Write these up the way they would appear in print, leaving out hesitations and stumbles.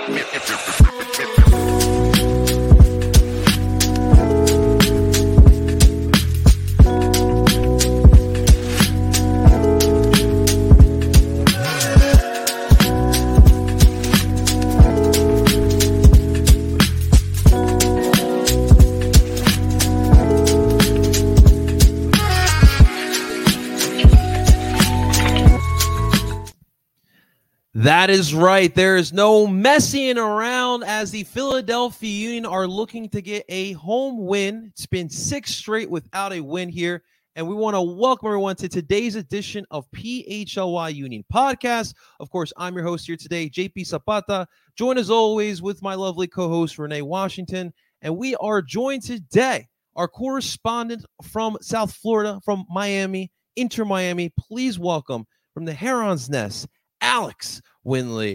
That is right. There is no messing around as the Philadelphia Union are looking to get a home win. It's been 6 straight without a win here. And we want to welcome everyone to today's edition of PHLY Union Podcast. Of course, I'm your host here today, JP Zapata, joined as always with my lovely co-host, Renee Washington. And we are joined today, our correspondent from South Florida, from Miami, Inter Miami. Please welcome from the Heron's Nest, Alex Winley.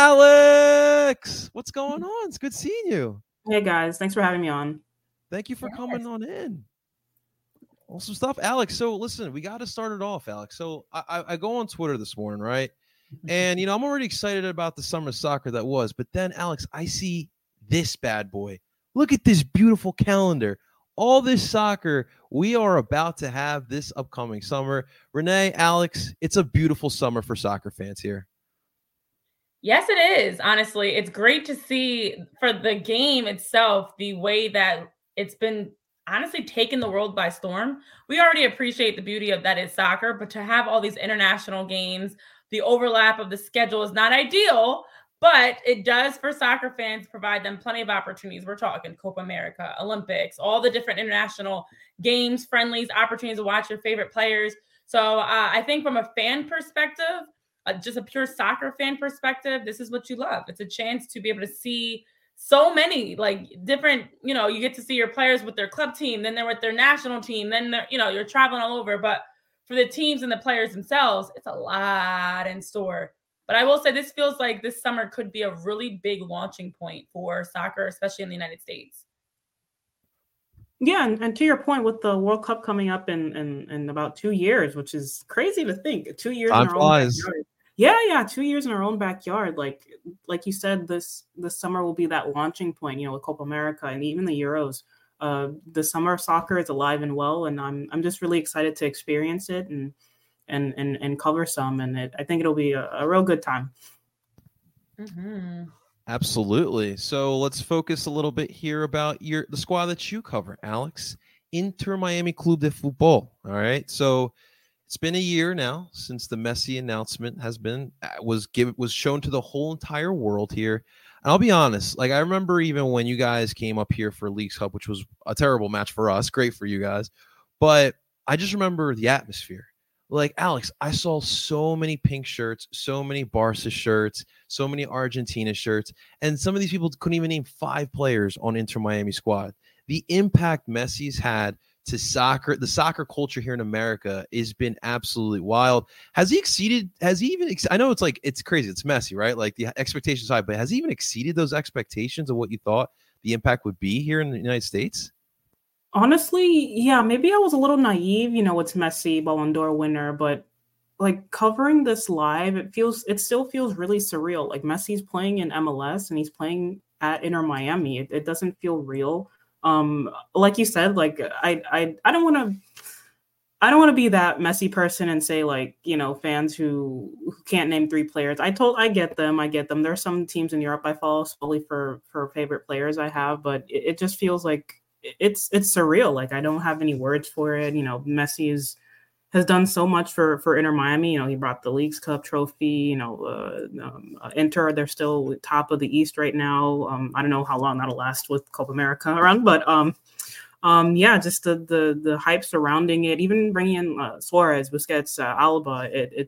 Alex, what's going on? It's good seeing you. Hey guys, thanks for having me on. Thank you for coming on in. Awesome stuff, Alex. So listen, we got to start it off, Alex. So I go on Twitter this morning, right? And I'm already excited about the summer soccer that was, but then Alex, I see this bad boy. Look at this beautiful calendar. All this soccer we are about to have this upcoming summer. Renee, Alex, it's a beautiful summer for soccer fans here. Yes, it is. Honestly, it's great to see for the game itself, the way that it's been honestly taking the world by storm. We already appreciate the beauty of that is soccer, but to have all these international games, the overlap of the schedule is not ideal, but it does for soccer fans provide them plenty of opportunities. We're talking Copa America, Olympics, all the different international games, friendlies, opportunities to watch your favorite players. So I think from a fan perspective, just a pure soccer fan perspective, this is what you love. It's a chance to be able to see so many different, you get to see your players with their club team, then they're with their national team, then they're, you're traveling all over. But for the teams and the players themselves, it's a lot in store. But I will say this feels like this summer could be a really big launching point for soccer, especially in the United States. Yeah, and to your point with the World Cup coming up in about 2 years, which is crazy to think. 2 years Time in our flies. own backyard. Yeah, 2 years in our own backyard. Like you said, this summer will be that launching point, with Copa America and even the Euros. The summer of soccer is alive and well, and I'm just really excited to experience it and cover some, and I think it'll be a real good time. Mm-hmm. Absolutely. So let's focus a little bit here about the squad that you cover, Alex. Inter Miami Club de Fútbol. All right. So it's been a year now since the Messi announcement was shown to the whole entire world here. And I'll be honest, I remember even when you guys came up here for Leagues Cup, which was a terrible match for us, great for you guys, but I just remember the atmosphere. Alex, I saw so many pink shirts, so many Barca shirts, so many Argentina shirts, and some of these people couldn't even name 5 players on Inter Miami squad. The impact Messi's had to soccer, the soccer culture here in America, has been absolutely wild. I know it's crazy, it's Messi, right? The expectations high, but has he even exceeded those expectations of what you thought the impact would be here in the United States? Honestly, yeah, maybe I was a little naive. It's Messi, Ballon d'Or winner, but covering this live, it still feels really surreal. Messi's playing in MLS and he's playing at Inter Miami. It doesn't feel real. Like you said, I don't want to be that Messi person and say fans who can't name 3 players. I get them. There are some teams in Europe I follow solely for favorite players I have, but it just feels like it's surreal. I don't have any words for it. Messi has done so much for Inter Miami. He brought the Leagues Cup trophy. Inter, they're still top of the East right now. I don't know how long that'll last with Copa America around, but yeah, just the hype surrounding it. Even bringing in Suarez, Busquets, Alba.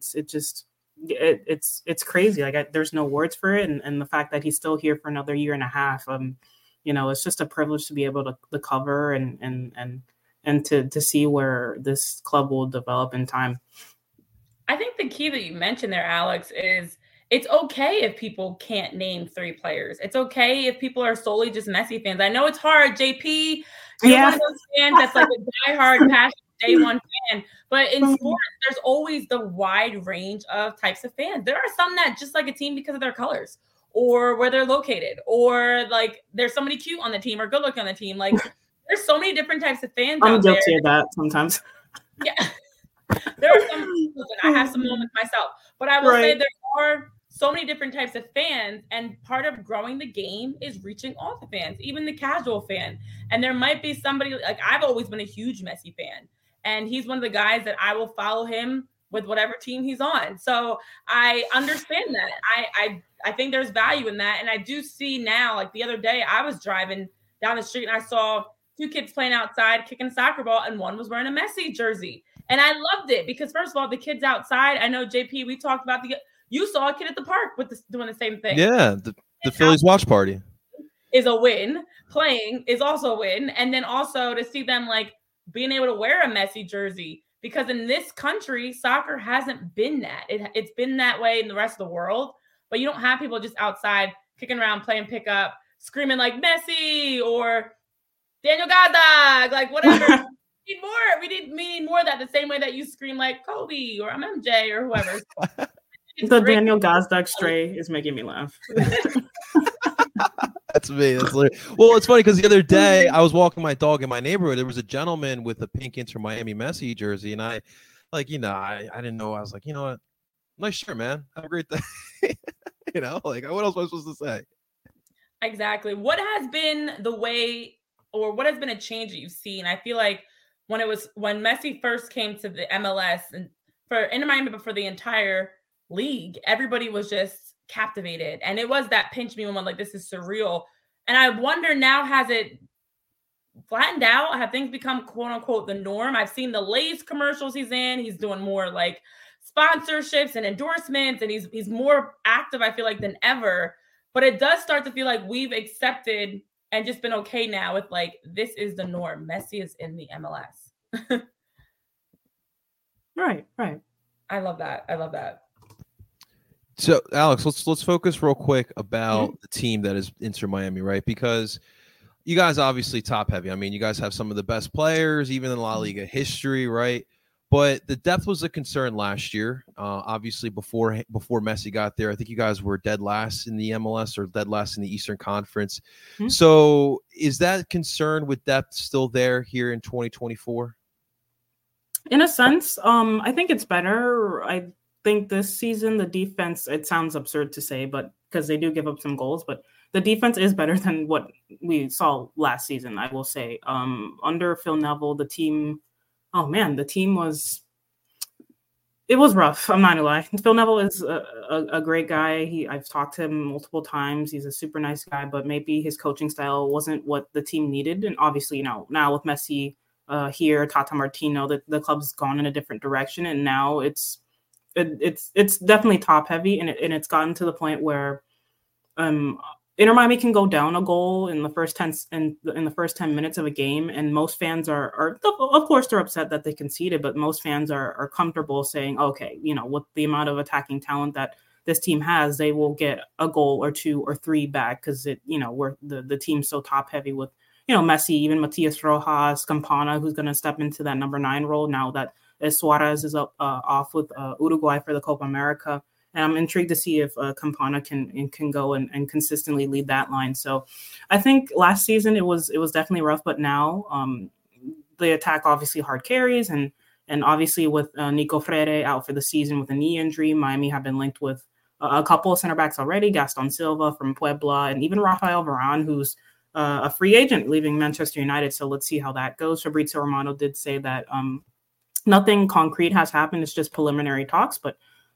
It's crazy. There's no words for it, and the fact that he's still here for another year and a half. It's just a privilege to be able to cover and to see where this club will develop in time. I think the key that you mentioned there, Alex, is it's okay if people can't name 3 players. It's okay if people are solely just Messi fans. I know it's hard, JP. You're one of those fans that's a diehard, passionate day one fan. But in sports, there's always the wide range of types of fans. There are some that just like a team because of their colors, or where they're located, or like there's somebody cute on the team or good looking on the team. Like there's so many different types of fans I'm out there. guilty of that sometimes. Yeah. There are some, I have some moments myself, but I will say there are so many different types of fans, and part of growing the game is reaching all the fans, even the casual fan. And there might be somebody, like I've always been a huge Messi fan, and he's one of the guys that I will follow him with whatever team he's on. So I understand that. I think there's value in that. And I do see now, like the other day I was driving down the street and I saw 2 kids playing outside, kicking a soccer ball, and one was wearing a Messi jersey. And I loved it because, first of all, the kids outside, I know, JP, we talked about you saw a kid at the park doing the same thing. Yeah, the Phillies watch party is a win. Playing is also a win. And then also to see them like being able to wear a Messi jersey, because in this country, soccer hasn't been that. It's been that way in the rest of the world, but you don't have people just outside kicking around, playing pickup, screaming like Messi or Daniel Gazdag, like whatever. We need more of that, the same way that you scream like Kobe or I'm MJ or whoever. The Daniel Gazdag stray is making me laugh. That's me. That's well, it's funny because the other day I was walking my dog in my neighborhood. There was a gentleman with a pink Inter Miami Messi jersey, and I didn't know. I was like, you know what? Nice shirt, man. Have a great day. Like what else am I supposed to say? Exactly. What has been the way, or what has been a change that you've seen? I feel like when Messi first came to the MLS and for Inter Miami, but for the entire league, everybody was just captivated. And it was that pinch me moment, like, this is surreal. And I wonder now, has it flattened out? Have things become quote unquote the norm? I've seen the Lay's commercials he's in. He's doing more like sponsorships and endorsements, and he's more active, I feel like, than ever. But it does start to feel like we've accepted and just been okay now with like, this is the norm. Messi is in the MLS. Right. I love that. So, Alex, let's focus real quick about the team that is Inter Miami, right? Because you guys obviously top heavy. I mean, you guys have some of the best players, even in La Liga history, right? But the depth was a concern last year. Obviously, before Messi got there, I think you guys were dead last in the MLS or dead last in the Eastern Conference. Mm-hmm. So is that concern with depth still there here in 2024? In a sense, I think it's better. I think this season, the defense, it sounds absurd to say, but because they do give up some goals, but the defense is better than what we saw last season, I will say. Under Phil Neville, the team was rough. I'm not gonna lie. Phil Neville is a great guy. I've talked to him multiple times. He's a super nice guy, but maybe his coaching style wasn't what the team needed. And obviously, now with Messi here, Tata Martino, the club's gone in a different direction, and now it's definitely top heavy, and it's gotten to the point where Inter Miami can go down a goal in the first 10 minutes of a game, and most fans are of course they're upset that they conceded, but most fans are comfortable saying, okay, with the amount of attacking talent that this team has, they will get a goal or 2 or 3 back because we're the team's so top heavy with Messi, even Matias Rojas, Campana, who's going to step into that number 9 role now that Suarez is off with Uruguay for the Copa America. And I'm intrigued to see if Campana can go and consistently lead that line. So I think last season it was definitely rough, but now the attack obviously hard carries, and obviously with Nico Freire out for the season with a knee injury, Miami have been linked with a couple of center backs already, Gaston Silva from Puebla, and even Rafael Varane, who's a free agent leaving Manchester United. So let's see how that goes. Fabrizio Romano did say that nothing concrete has happened. It's just preliminary talks, but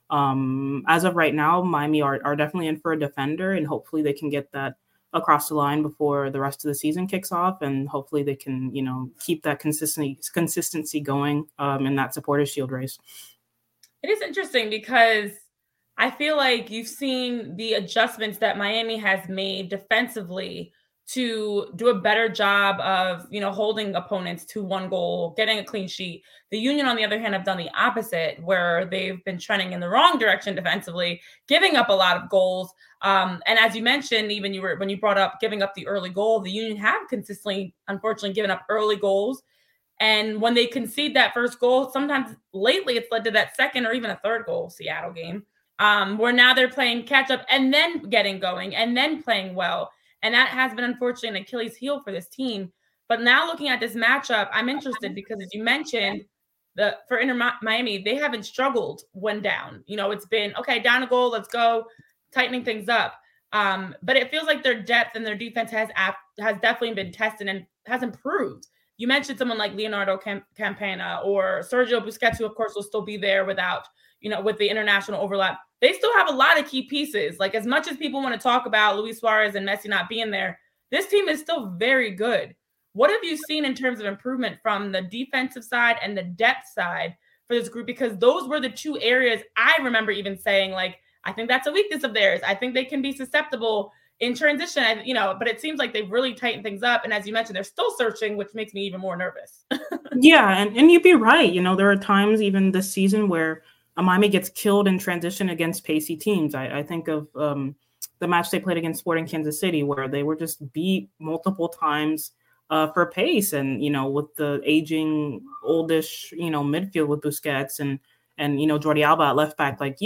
as of right now, Miami are definitely in for a defender, and hopefully they can get that across the line before the rest of the season kicks off, and hopefully they can, keep that consistency going in that Supporters' Shield race. It is interesting because I feel like you've seen the adjustments that Miami has made defensively to do a better job of, holding opponents to 1 goal, getting a clean sheet. The Union, on the other hand, have done the opposite, where they've been trending in the wrong direction defensively, giving up a lot of goals. And as you mentioned, even when you brought up giving up the early goal, the Union have consistently, unfortunately, given up early goals. And when they concede that first goal, sometimes lately it's led to that second or even a third goal, Seattle game. where now they're playing catch up and then getting going and then playing well. And that has been unfortunately an Achilles heel for this team. But now looking at this matchup, I'm interested because as you mentioned, for Inter Miami, they haven't struggled when down. It's been, okay, down a goal, let's go, tightening things up. But it feels like their depth and their defense has definitely been tested and has improved. You mentioned someone like Leonardo Campana or Sergio Busquets, who of course will still be there without, with the international overlap. They still have a lot of key pieces. Like, as much as people want to talk about Luis Suarez and Messi not being there, this team is still very good. What have you seen in terms of improvement from the defensive side and the depth side for this group? Because those were the two areas I remember even saying, like, I think that's a weakness of theirs. I think they can be susceptible in transition, but it seems like they've really tightened things up. And as you mentioned, they're still searching, which makes me even more nervous. Yeah, and you'd be right. There are times even this season where Miami gets killed in transition against pacey teams. I think of the match they played against Sporting Kansas City, where they were just beat multiple times for pace. And, with the aging, oldish, midfield with Busquets and Jordi Alba at left back, like,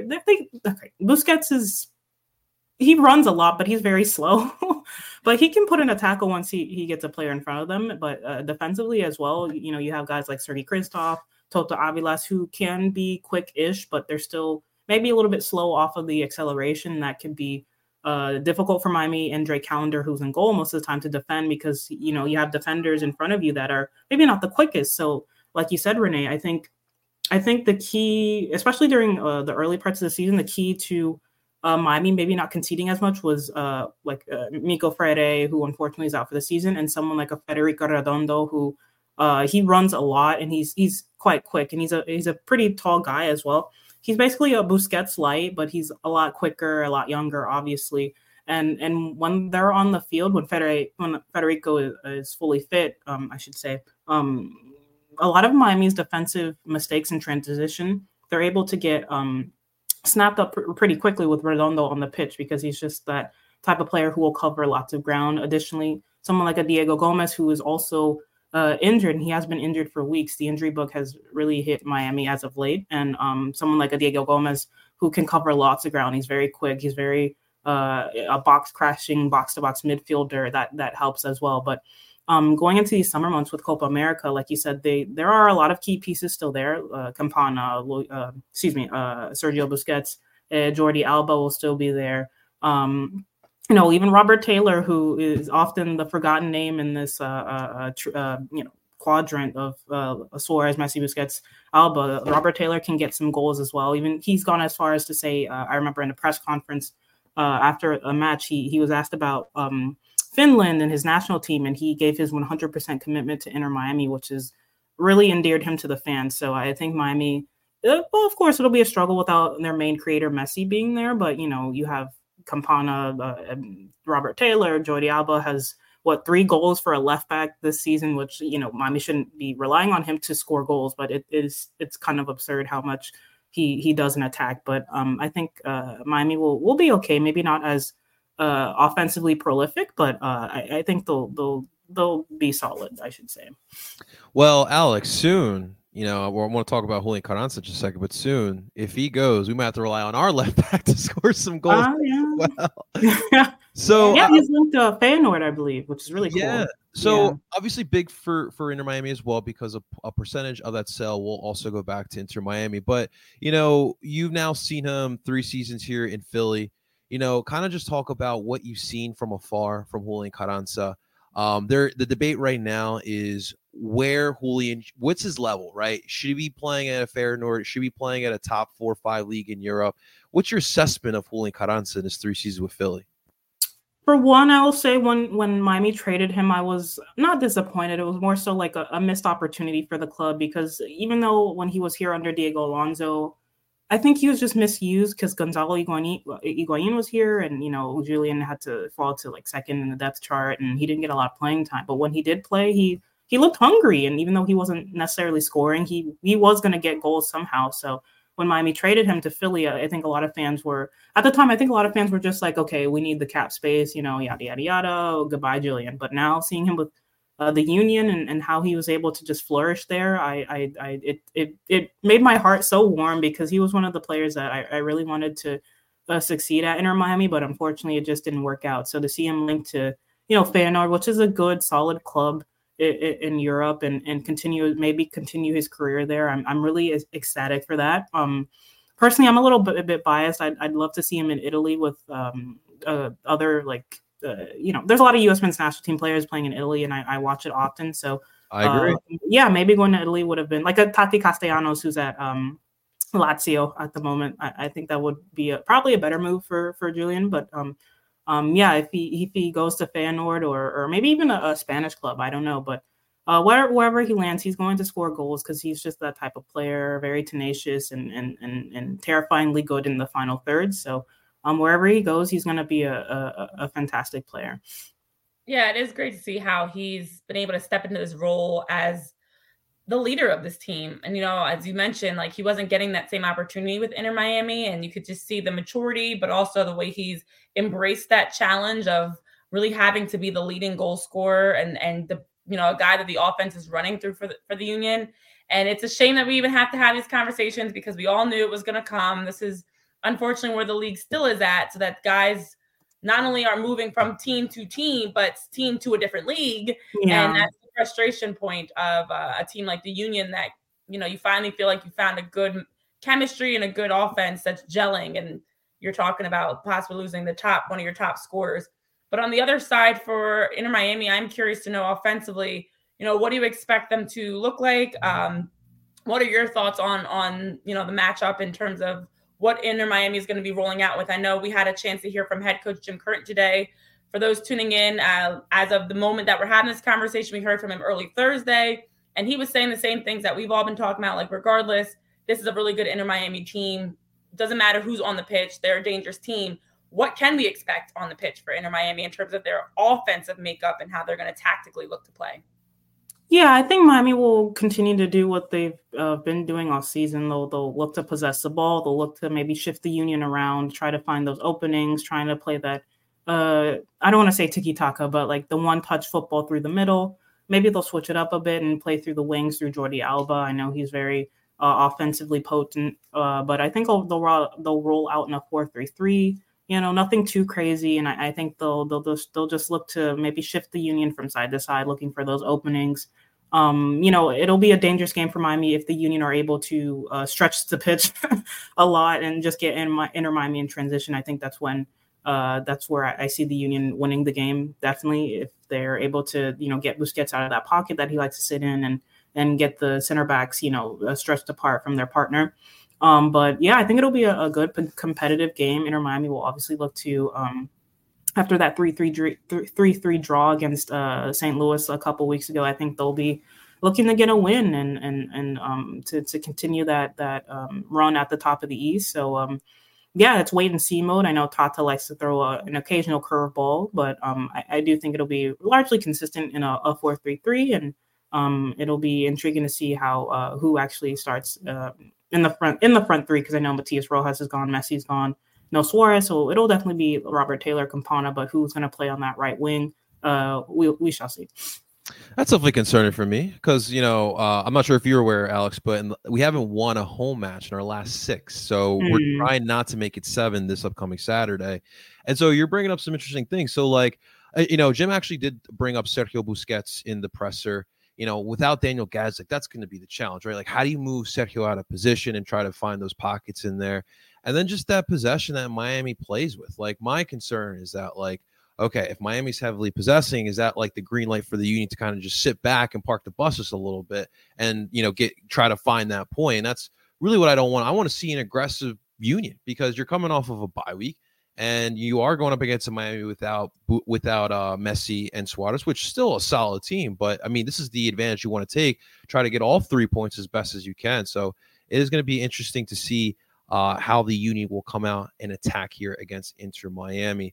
Busquets he runs a lot, but he's very slow. But he can put in a tackle once he gets a player in front of them. But defensively as well, you have guys like Sergi Christoph, Toto Avilas, who can be quick-ish, but they're still maybe a little bit slow off of the acceleration. That could be difficult for Miami. And Drake Callender, who's in goal most of the time, to defend because, you have defenders in front of you that are maybe not the quickest. So like you said, Renee, I think the key, especially during the early parts of the season, the key to Miami maybe not conceding as much was Mico Freire, who unfortunately is out for the season, and someone like a Federico Redondo, who he runs a lot and he's quite quick, and he's a pretty tall guy as well. He's basically a Busquets light, but he's a lot quicker, a lot younger, obviously. And when they're on the field, when Federico is fully fit, I should say, a lot of Miami's defensive mistakes in transition, they're able to get snapped up pretty quickly with Redondo on the pitch, because he's just that type of player who will cover lots of ground. Additionally, someone like a Diego Gomez, who is also injured, and he has been injured for weeks. The injury bug has really hit Miami as of late. And someone like a Diego Gomez, who can cover lots of ground. He's very quick. He's very a box crashing, box to box midfielder that helps as well. But going into these summer months with Copa America, like you said, there are a lot of key pieces still there. Campana, Sergio Busquets, Jordi Alba will still be there. Even Robert Taylor, who is often the forgotten name in this quadrant of Suarez, Messi, Busquets, Alba. Robert Taylor can get some goals as well. Even he's gone as far as to say, I remember in a press conference after a match, he was asked about Finland and his national team, and he gave his 100% commitment to Inter Miami, which has really endeared him to the fans. So I think Miami, well, of course, it'll be a struggle without their main creator, Messi, being there. But, you have Campana, Robert Taylor, Jordi Alba has, 3 goals for a left back this season, which, Miami shouldn't be relying on him to score goals, but it's kind of absurd how much he does in attack. But I think Miami will be okay. Maybe not as offensively prolific, but I think they'll be solid, I should say. Well, Alex, soon, I want to talk about Julian Carranza in just a second, but soon, if he goes, we might have to rely on our left back to score some goals. Yeah. So he's linked to Feyenoord, I believe, which is really cool. Yeah. So obviously big for Inter Miami as well, because a percentage of that sale will also go back to Inter Miami. But, you've now seen him 3 seasons here in Philly. Kind of just talk about what you've seen from afar from Julian Carranza. The debate right now is what's his level, right? Should he be playing at a Feyenoord? Should he be playing at a top 4 or 5 league in Europe? What's your assessment of Julian Carranza in his 3 seasons with Philly? For one, I will say when Miami traded him, I was not disappointed. It was more so like a missed opportunity for the club, because even though when he was here under Diego Alonso, I think he was just misused because Gonzalo Higuain was here, and Julian had to fall to like second in the depth chart, and he didn't get a lot of playing time. But when he did play, he looked hungry, and even though he wasn't necessarily scoring, he was going to get goals somehow. So when Miami traded him to Philly, I think a lot of fans were at the time. I think a lot of fans were just like, okay, we need the cap space, yada yada yada. Goodbye, Julian. But now seeing him with the Union and how he was able to just flourish there. It made my heart so warm because he was one of the players that I really wanted to succeed at Inter Miami, but unfortunately it just didn't work out. So to see him linked to, Feyenoord, which is a good, solid club in Europe, and continue his career there, I'm really ecstatic for that. Personally, I'm a bit biased. I'd love to see him in Italy with other there's a lot of U.S. men's national team players playing in Italy, and I watch it often. So I agree. Maybe going to Italy would have been like a Tati Castellanos, who's at Lazio at the moment. I think that would be probably a better move for Julian. But if he goes to Feyenoord or maybe even a Spanish club, I don't know. But wherever he lands, he's going to score goals because he's just that type of player, very tenacious and terrifyingly good in the final third. So wherever he goes, he's going to be a fantastic player. Yeah, it is great to see how he's been able to step into this role as the leader of this team. And, as you mentioned, like he wasn't getting that same opportunity with Inter Miami, and you could just see the maturity, but also the way he's embraced that challenge of really having to be the leading goal scorer and the, a guy that the offense is running through for the Union. And it's a shame that we even have to have these conversations because we all knew it was going to come. This is unfortunately where the league still is at, so that guys not only are moving from team to team, but team to a different league. Yeah. And that's the frustration point of a team like the Union that, you finally feel like you found a good chemistry and a good offense that's gelling. And you're talking about possibly losing one of your top scorers. But on the other side for Inter Miami, I'm curious to know offensively, what do you expect them to look like? What are your thoughts on the matchup in terms of what Inter Miami is going to be rolling out with? I know we had a chance to hear from head coach Jim Curtin today. For those tuning in, as of the moment that we're having this conversation, we heard from him early Thursday, and he was saying the same things that we've all been talking about. Like, regardless, this is a really good Inter Miami team. Doesn't matter who's on the pitch. They're a dangerous team. What can we expect on the pitch for Inter Miami in terms of their offensive makeup and how they're going to tactically look to play? Yeah, I think Miami will continue to do what they've been doing all season. They'll look to possess the ball. They'll look to maybe shift the Union around, try to find those openings, trying to play that, I don't want to say tiki-taka, but like the one-touch football through the middle. Maybe they'll switch it up a bit and play through the wings through Jordi Alba. I know he's very offensively potent, but I think they'll roll out in a 4-3-3. Nothing too crazy, and I think they'll just look to maybe shift the Union from side to side, looking for those openings. It'll be a dangerous game for Miami if the Union are able to stretch the pitch a lot and just get Inter Miami in transition. I think that's where I see the Union winning the game. Definitely, if they're able to get Busquets out of that pocket that he likes to sit in and get the center backs stretched apart from their partner. But yeah, I think it'll be a good competitive game. Inter Miami will obviously look to, after that 3-3 draw against St. Louis a couple weeks ago, I think they'll be looking to get a win and to continue that run at the top of the East. So it's wait and see mode. I know Tata likes to throw an occasional curveball, but I do think it'll be largely consistent in a 4-3-3, and it'll be intriguing to see how who actually starts in the front three, because I know Matias Rojas is gone, Messi's gone, no Suarez, so it'll definitely be Robert Taylor, Campana, but who's going to play on that right wing? We shall see. That's definitely concerning for me because, I'm not sure if you're aware, Alex, but we haven't won a home match in our last 6. So we're trying not to make it 7 this upcoming Saturday. And so you're bringing up some interesting things. So Jim actually did bring up Sergio Busquets in the presser. Without Daniel Gazdic, that's going to be the challenge, right? Like, how do you move Sergio out of position and try to find those pockets in there? And then just that possession that Miami plays with. Like, my concern is that, okay, if Miami's heavily possessing, is that like the green light for the Union to kind of just sit back and park the bus just a little bit and, try to find that point? And that's really what I don't want. I want to see an aggressive Union because you're coming off of a bye week. And you are going up against a Miami without Messi and Suarez, which is still a solid team. But, I mean, this is the advantage you want to take. Try to get all 3 points as best as you can. So it is going to be interesting to see how the Union will come out and attack here against Inter Miami.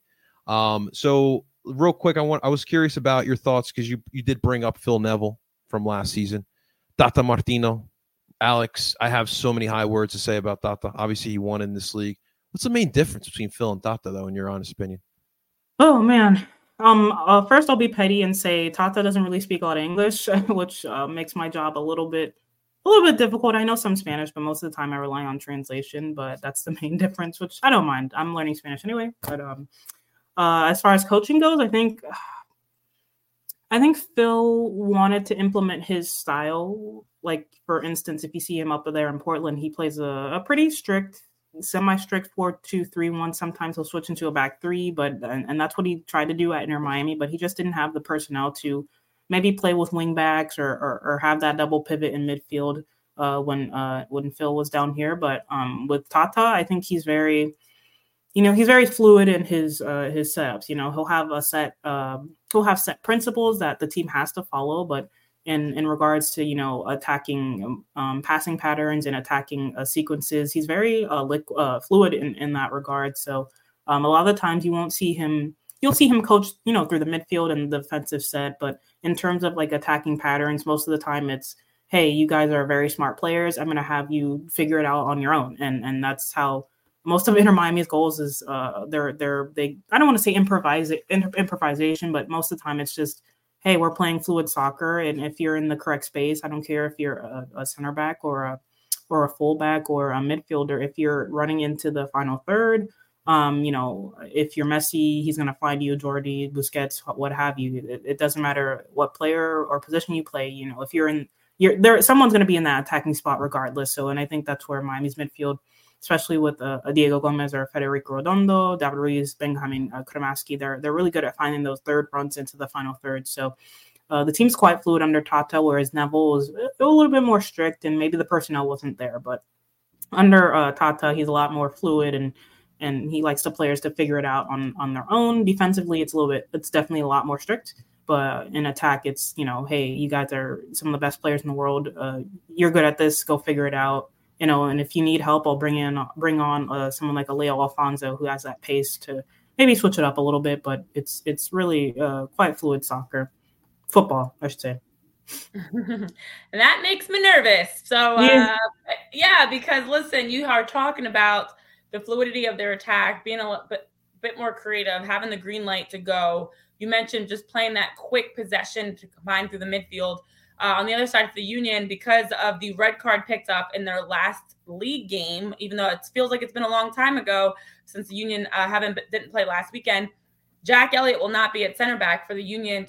So real quick, I was curious about your thoughts because you did bring up Phil Neville from last season. Tata Martino. Alex, I have so many high words to say about Tata. Obviously, he won in this league. What's the main difference between Phil and Tata, though, in your honest opinion? Oh, man. First I'll be petty and say Tata doesn't really speak a lot of English, which makes my job a little bit difficult. I know some Spanish, but most of the time I rely on translation. But that's the main difference, which I don't mind. I'm learning Spanish anyway. But as far as coaching goes, I think Phil wanted to implement his style. Like, for instance, if you see him up there in Portland, he plays a pretty strict, semi-strict 4-2-3-1. Sometimes he'll switch into a back three, and that's what he tried to do at Inter Miami, but he just didn't have the personnel to maybe play with wing backs or have that double pivot in midfield when Phil was down here. But with Tata, I think he's very fluid in his setups. He'll have set principles that the team has to follow, but in regards to attacking passing patterns and attacking sequences, he's very fluid in that regard. So a lot of the times you'll see him coach through the midfield and the defensive set, but in terms of like attacking patterns, most of the time it's, hey, you guys are very smart players, I'm going to have you figure it out on your own. And that's how most of Inter Miami's goals is they I don't want to say improvisation, but most of the time it's just, hey, we're playing fluid soccer, and if you're in the correct space, I don't care if you're a center back or a fullback or a midfielder. If you're running into the final third, if you're Messi, he's going to find you, Jordi, Busquets, what have you. It doesn't matter what player or position you play. If you're there, someone's going to be in that attacking spot regardless. So, and I think that's where Miami's midfield, especially with Diego Gomez or Federico Redondo, David Ruiz, Benjamin Cremaschi, they're really good at finding those third runs into the final third. So the team's quite fluid under Tata, whereas Neville was a little bit more strict, and maybe the personnel wasn't there. But under Tata, he's a lot more fluid, and he likes the players to figure it out on their own. Defensively, it's definitely a lot more strict. But in attack, it's, hey, you guys are some of the best players in the world. You're good at this. Go figure it out. And if you need help, I'll bring on someone like a Leo Alfonso who has that pace to maybe switch it up a little bit. But it's really quite fluid football, I should say. And that makes me nervous. So because listen, you are talking about the fluidity of their attack, being a bit more creative, having the green light to go. You mentioned just playing that quick possession to combine through the midfield. On the other side of the Union, because of the red card picked up in their last league game, even though it feels like it's been a long time ago since the Union didn't play last weekend, Jack Elliott will not be at center back for the Union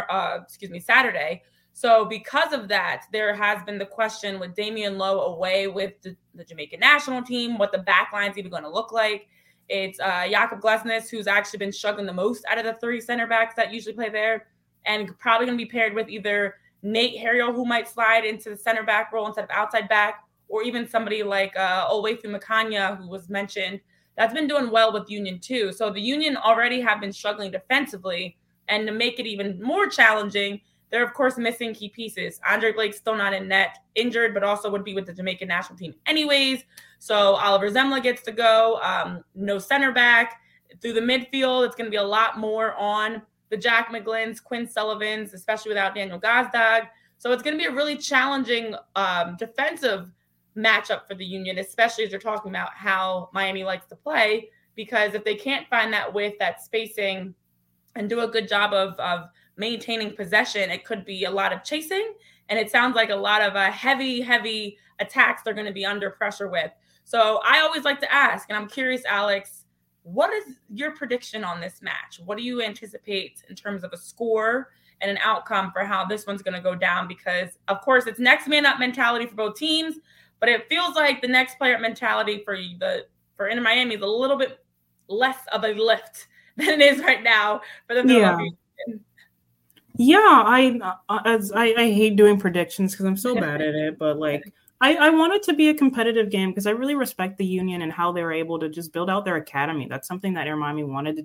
Saturday. So because of that, there has been the question with Damian Lowe away with the Jamaican national team, what the back line's even going to look like. It's Jakob Glesnes, who's actually been struggling the most out of the three center backs that usually play there, and probably going to be paired with either Nate Harriel, who might slide into the center back role instead of outside back, or even somebody like Oluwaseun Makanya, who was mentioned, that's been doing well with Union too. So the Union already have been struggling defensively, and to make it even more challenging, they're of course missing key pieces. Andre Blake's still not in net, injured, but also would be with the Jamaican national team anyways. So Oliver Zemla gets to go. No center back. Through the midfield, it's going to be a lot more on the Jack McGlinns, Quinn Sullivans, especially without Daniel Gazdag. So it's going to be a really challenging defensive matchup for the Union, especially as you're talking about how Miami likes to play, because if they can't find that width, that spacing, and do a good job of maintaining possession, it could be a lot of chasing. And it sounds like a lot of heavy attacks they're going to be under pressure with. So I always like to ask, and I'm curious, Alex, what is your prediction on this match? What do you anticipate in terms of a score and an outcome for how this one's going to go down? Because, of course, it's next man up mentality for both teams, but it feels like the next player mentality for Inter Miami is a little bit less of a lift than it is right now for the Philadelphia Union. Yeah, I hate doing predictions because I'm so bad at it, but I want it to be a competitive game because I really respect the Union and how they're able to just build out their academy. That's something that Inter Miami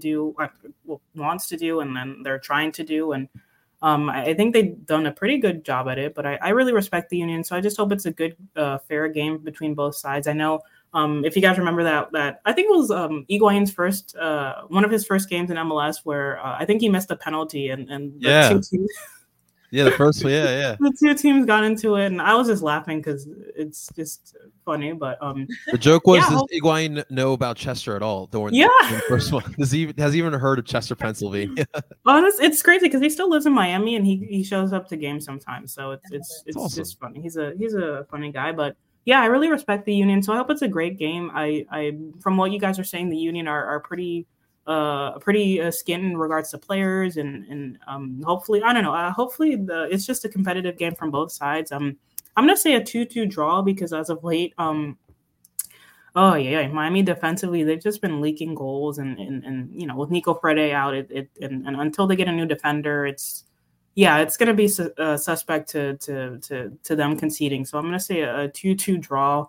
wants to do, and then they're trying to do. And I think they've done a pretty good job at it, but I really respect the Union. So I just hope it's a good, fair game between both sides. I know if you guys remember that I think it was Higuain's one of his first games in MLS where I think he missed a penalty and yeah. Yeah, the first one. Yeah. The two teams got into it, and I was just laughing because it's just funny. But the joke was, yeah, does Higuain know about Chester at all? During Yeah. the first one, has he even heard of Chester, Pennsylvania? It's crazy because he still lives in Miami and he shows up to games sometimes. So it's awesome. just funny. He's a funny guy, but yeah, I really respect the Union. So I hope it's a great game. I from what you guys are saying, the Union are pretty skint in regards to players and hopefully, I don't know, hopefully it's just a competitive game from both sides. I'm gonna say a 2-2 draw because as of late, oh yeah, Miami defensively, they've just been leaking goals and you know, with Nico Frede out, and until they get a new defender, it's gonna be suspect to them conceding. So I'm gonna say a 2-2 draw.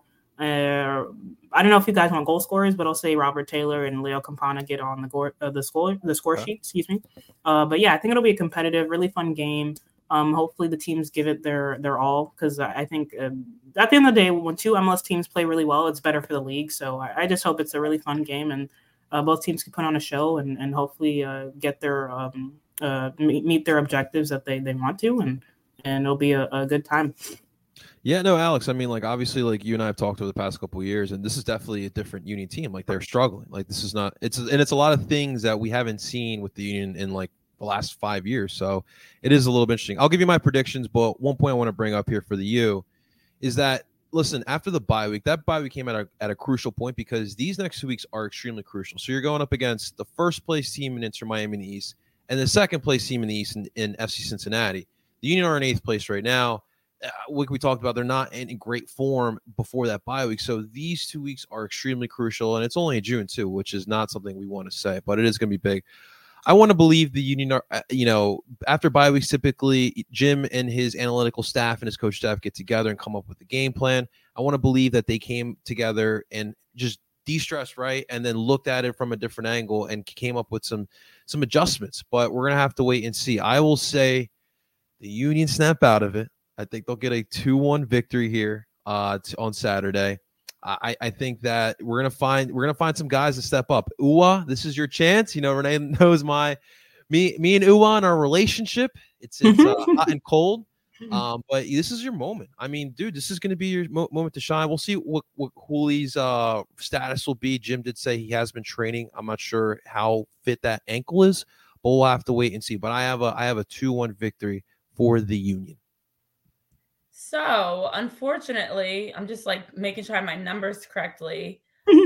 I don't know if you guys want goal scorers, but I'll say Robert Taylor and Leo Campana get on the score sheet. Excuse me. But yeah, I think it'll be a competitive, really fun game. Hopefully the teams give it their all because I think at the end of the day, when two MLS teams play really well, it's better for the league. So I just hope it's a really fun game and both teams can put on a show and hopefully get their meet their objectives that they want to and it'll be a good time. Yeah, no, Alex, I mean, like, obviously, like, you and I have talked over the past couple of years, and this is definitely a different Union team. Like, they're struggling. Like, this is not – it's a lot of things that we haven't seen with the Union in, like, the last 5 years. So it is a little bit interesting. I'll give you my predictions, but one point I want to bring up here for the U is that, listen, after the bye week, that bye week came at a crucial point because these next 2 weeks are extremely crucial. So you're going up against the first-place team in Inter Miami in the East and the second-place team in the East in FC Cincinnati. The Union are in 8th place right now. Like we talked about, they're not in great form before that bye week. So these 2 weeks are extremely crucial, and it's only in June too, which is not something we want to say, but it is going to be big. I want to believe the Union are, after bye weeks, typically Jim and his analytical staff and his coach staff get together and come up with a game plan. I want to believe that they came together and just de-stressed, right, and then looked at it from a different angle and came up with some adjustments. But we're going to have to wait and see. I will say the Union snap out of it. I think they'll get a 2-1 victory here on Saturday. I think that we're gonna find some guys to step up. Uwa, this is your chance. You know, Renee knows me and Uwa and our relationship. It's hot and cold. But this is your moment. I mean, dude, this is going to be your moment to shine. We'll see what Hooley's status will be. Jim did say he has been training. I'm not sure how fit that ankle is, but we'll have to wait and see. But I have a 2-1 victory for the Union. So, unfortunately, I'm just like making sure I have my numbers correctly.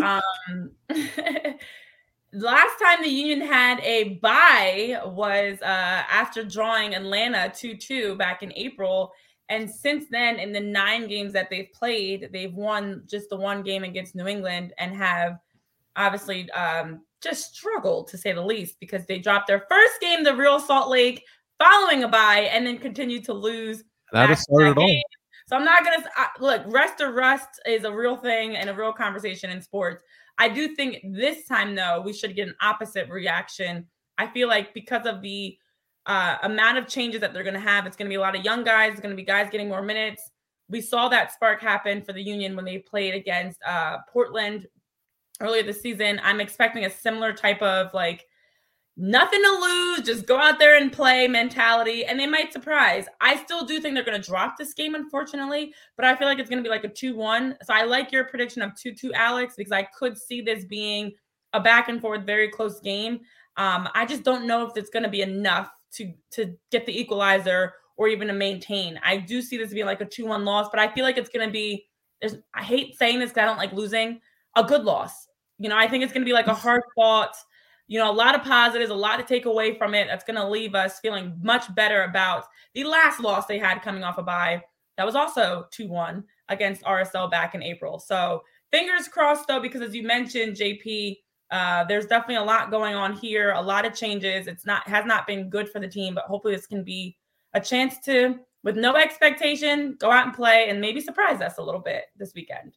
Last time the Union had a bye was after drawing Atlanta 2-2 back in April. And since then, in the 9 games that they've played, they've won just the 1 game against New England and have obviously just struggled, to say the least, because they dropped their first game, the Real Salt Lake, following a bye, and then continued to lose. That started all. So I'm not going to look, rest or rust is a real thing and a real conversation in sports. I do think this time, though, we should get an opposite reaction. I feel like because of the amount of changes that they're going to have, it's going to be a lot of young guys. It's going to be guys getting more minutes. We saw that spark happen for the Union when they played against Portland earlier this season. I'm expecting a similar type of like, nothing to lose, just go out there and play mentality, and they might surprise. I still do think they're going to drop this game, unfortunately, but I feel like it's going to be like a 2-1. So I like your prediction of 2-2, Alex, because I could see this being a back and forth, very close game. I just don't know if it's going to be enough to get the equalizer or even to maintain. I do see this being like a 2-1 loss, but I feel like it's going to be, I hate saying this because I don't like losing, a good loss. You know, I think it's going to be like a hard fought, you know, a lot of positives, a lot to take away from it. That's going to leave us feeling much better about the last loss they had coming off a bye. That was also 2-1 against RSL back in April. So fingers crossed, though, because as you mentioned, JP, there's definitely a lot going on here, a lot of changes. Has not been good for the team, but hopefully this can be a chance to, with no expectation, go out and play and maybe surprise us a little bit this weekend.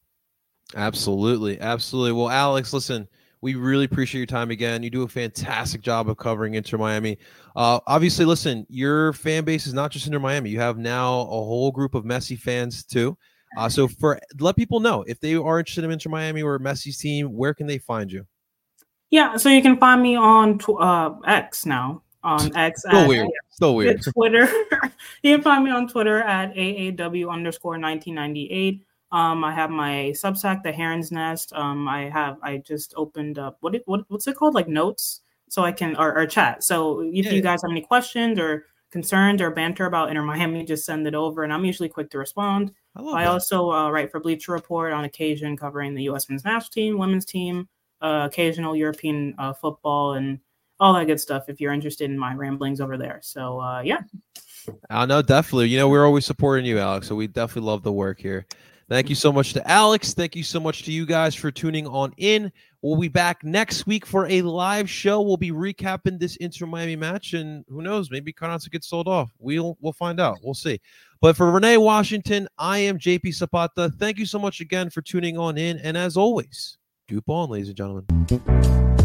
Absolutely. Absolutely. Well, Alex, listen, we really appreciate your time again. You do a fantastic job of covering Inter Miami. Obviously, listen, your fan base is not just Inter Miami. You have now a whole group of Messi fans too. So let people know if they are interested in Inter Miami or Messi's team, where can they find you? Yeah, so you can find me on X now, on X. Still weird. Still weird. Twitter. You can find me on Twitter at AAW_1998. I have my Substack, The Heron's Nest. I just opened up what's it called? Like notes, so I can or chat. So if you guys have any questions or concerns or banter about Inter Miami, just send it over, and I'm usually quick to respond. I also write for Bleacher Report on occasion, covering the U.S. men's national team, women's team, occasional European football, and all that good stuff. If you're interested in my ramblings over there, so yeah. No, definitely. We're always supporting you, Alex. So we definitely love the work here. Thank you so much to Alex. Thank you so much to you guys for tuning on in. We'll be back next week for a live show. We'll be recapping this Inter Miami match, and who knows, maybe Carranza gets sold off. We'll find out. We'll see. But for Renee Washington, I am JP Zapata. Thank you so much again for tuning on in, and as always, Dupe on, ladies and gentlemen.